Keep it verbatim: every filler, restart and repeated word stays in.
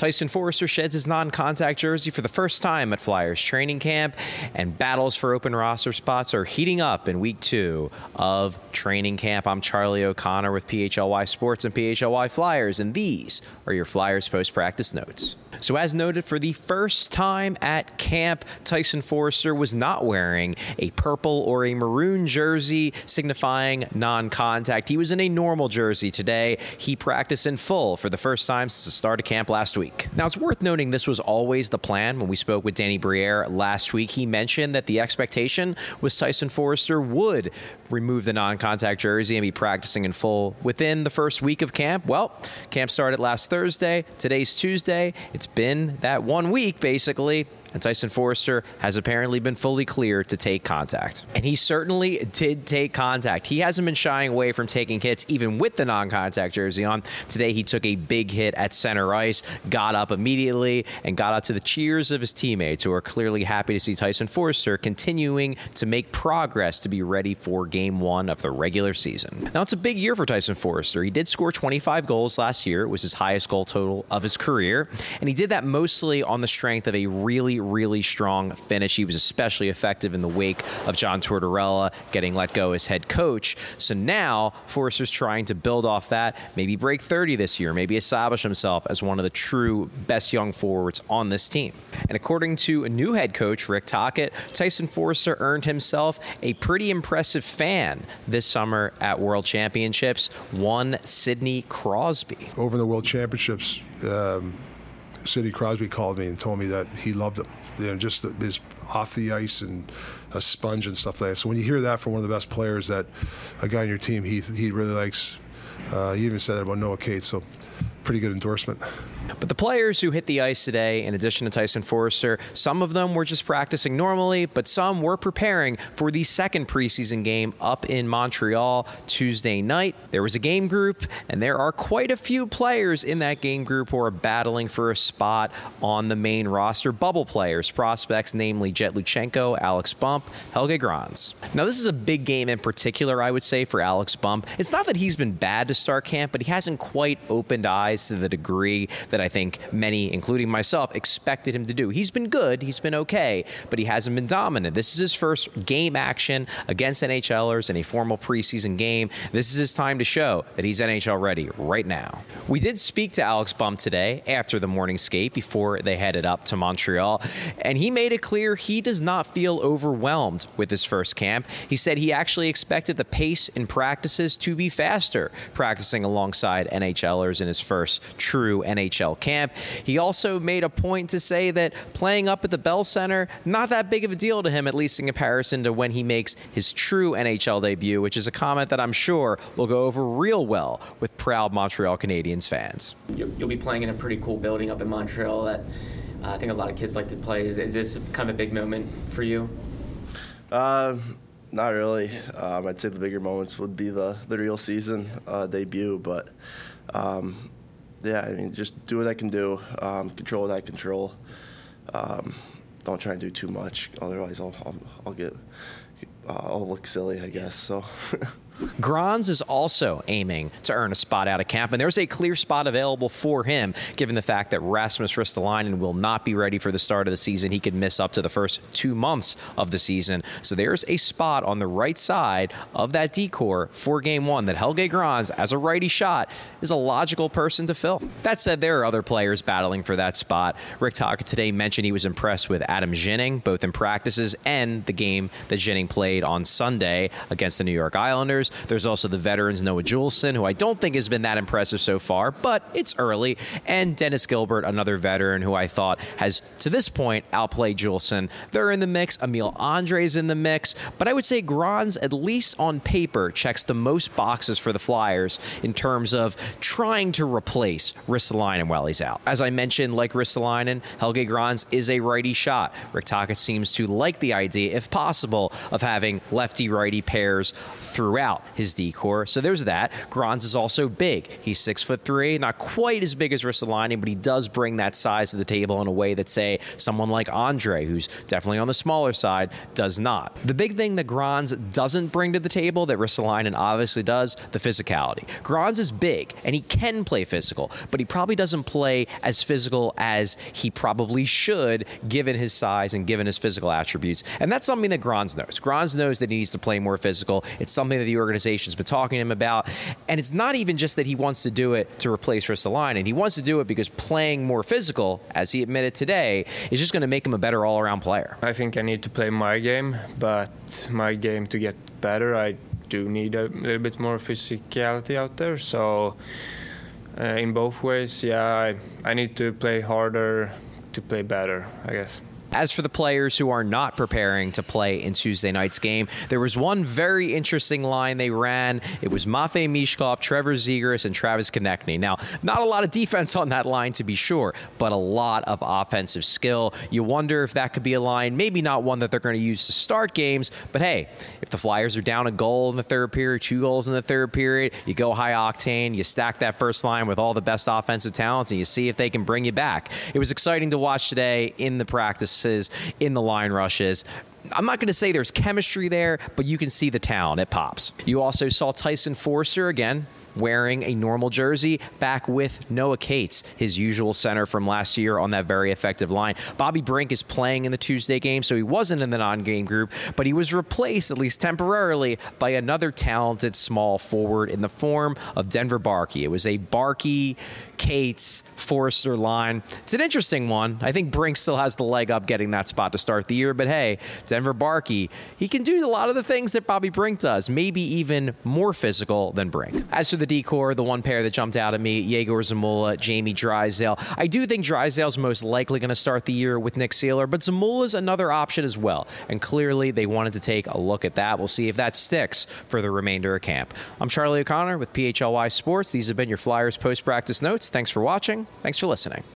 Tyson Foerster sheds his non-contact jersey for the first time at Flyers training camp, and battles for open roster spots are heating up in week two of training camp. I'm Charlie O'Connor with P H L Y Sports and P H L Y Flyers, and these are your Flyers post-practice notes. So as noted, for the first time at camp, Tyson Foerster was not wearing a purple or a maroon jersey signifying non-contact. He was in a normal jersey today. He practiced in full for the first time since the start of camp last week. Now, it's worth noting this was always the plan. When we spoke with Danny Briere last week, he mentioned that the expectation was Tyson Foerster would remove the non-contact jersey and be practicing in full within the first week of camp. Well, camp started last Thursday. Today's Tuesday. It's been that one week, basically, and Tyson Foerster has apparently been fully cleared to take contact. And he certainly did take contact. He hasn't been shying away from taking hits, even with the non-contact jersey on. Today, he took a big hit at center ice, got up immediately, and got out to the cheers of his teammates, who are clearly happy to see Tyson Foerster continuing to make progress to be ready for game one of the regular season. Now, it's a big year for Tyson Foerster. He did score twenty-five goals last year. It was his highest goal total of his career, and he did that mostly on the strength of a really really strong finish. He was especially effective in the wake of John Tortorella getting let go as head coach. So now Foerster's trying to build off that, maybe break thirty this year, maybe establish himself as one of the true best young forwards on this team. And according to a new head coach, Rick Tocchet, Tyson Foerster earned himself a pretty impressive fan this summer at World Championships, one Sidney Crosby. Over the World Championships, um, Sidney Crosby called me and told me that he loved him. You know, just his off the ice and a sponge and stuff like that. So when you hear that from one of the best players, that a guy on your team he he really likes, uh, he even said that about Noah Cates. So pretty good endorsement. But the players who hit the ice today, in addition to Tyson Foerster, some of them were just practicing normally, but some were preparing for the second preseason game up in Montreal Tuesday night. There was a game group, and there are quite a few players in that game group who are battling for a spot on the main roster. Bubble players, prospects, namely Jet Luchenko, Alex Bump, Helge Grans. Now, this is a big game in particular, I would say, for Alex Bump. It's not that he's been bad to start camp, but he hasn't quite opened eyes to the degree that I think many, including myself, expected him to do. He's been good, he's been okay, but he hasn't been dominant. This is his first game action against NHLers in a formal preseason game. This is his time to show that he's N H L ready right now. We did speak to Alex Bump today after the morning skate before they headed up to Montreal, and he made it clear he does not feel overwhelmed with his first camp. He said he actually expected the pace in practices to be faster, practicing alongside NHLers in his first true N H L camp. He also made a point to say that playing up at the Bell Center, not that big of a deal to him, at least in comparison to when he makes his true N H L debut, which is a comment that I'm sure will go over real well with proud Montreal Canadiens fans. You'll be playing in a pretty cool building up in Montreal that uh, I think a lot of kids like to play. Is, is this kind of a big moment for you? Uh, not really. Um, I'd say the bigger moments would be the, the real season uh, debut, but um, yeah, I mean, just do what I can do, um, control what I control. Um, don't try and do too much, otherwise I'll I'll, I'll get uh, I'll look silly, I guess. So. Grans is also aiming to earn a spot out of camp, and there's a clear spot available for him, given the fact that Rasmus Ristolainen will not be ready for the start of the season. He could miss up to the first two months of the season. So there's a spot on the right side of that decor for game one that Helge Grans, as a righty shot, is a logical person to fill. That said, there are other players battling for that spot. Rick Tocchet today mentioned he was impressed with Adam Ginning, both in practices and the game that Ginning played on Sunday against the New York Islanders. There's also the veterans Noah Juulsen, who I don't think has been that impressive so far, but it's early. And Dennis Gilbert, another veteran who I thought has, to this point, outplayed Juulsen. They're in the mix. Emil Andre's in the mix. But I would say Grans, at least on paper, checks the most boxes for the Flyers in terms of trying to replace Ristolainen while he's out. As I mentioned, like Ristolainen, Helge Grans is a righty shot. Rick Tocchet seems to like the idea, if possible, of having lefty-righty pairs throughout. out his D-core. So there's that. Grans is also big. He's six foot three, not quite as big as Ristolainen, but he does bring that size to the table in a way that, say, someone like Andre, who's definitely on the smaller side, does not. The big thing that Grans doesn't bring to the table that Ristolainen obviously does, the physicality. Grans is big, and he can play physical, but he probably doesn't play as physical as he probably should, given his size and given his physical attributes. And that's something that Grans knows. Grans knows that he needs to play more physical. It's something that the organization's been talking to him about. And it's not even just that he wants to do it to replace Ristolainen. He wants to do it because playing more physical, as he admitted today, is just going to make him a better all-around player. I think I need to play my game, but my game to get better, I do need a little bit more physicality out there. So uh, in both ways, yeah, I, I need to play harder to play better, I guess. As for the players who are not preparing to play in Tuesday night's game, there was one very interesting line they ran. It was Matvei Michkov, Trevor Zegras, and Travis Konechny. Now, not a lot of defense on that line, to be sure, but a lot of offensive skill. You wonder if that could be a line, maybe not one that they're going to use to start games, but hey, if the Flyers are down a goal in the third period, two goals in the third period, you go high octane, you stack that first line with all the best offensive talents, and you see if they can bring you back. It was exciting to watch today in the practice, in the line rushes. I'm not going to say there's chemistry there, but you can see the talent. It pops. You also saw Tyson Foerster again wearing a normal jersey, back with Noah Cates, his usual center from last year on that very effective line. Bobby Brink is playing in the Tuesday game, so he wasn't in the non-game group, but he was replaced, at least temporarily, by another talented small forward in the form of Denver Barkey. It was a Barkey, Cates, Foerster line. It's an interesting one. I think Brink still has the leg up getting that spot to start the year, but hey, Denver Barkey, he can do a lot of the things that Bobby Brink does, maybe even more physical than Brink. As for the D-core, the one pair that jumped out at me, Yegor Zamula, Jamie Drysdale. I do think Drysdale's most likely going to start the year with Nick Seeler, but Zamula's another option as well, and clearly they wanted to take a look at that. We'll see if that sticks for the remainder of camp. I'm Charlie O'Connor with P H L Y Sports. These have been your Flyers post-practice notes. Thanks for watching. Thanks for listening.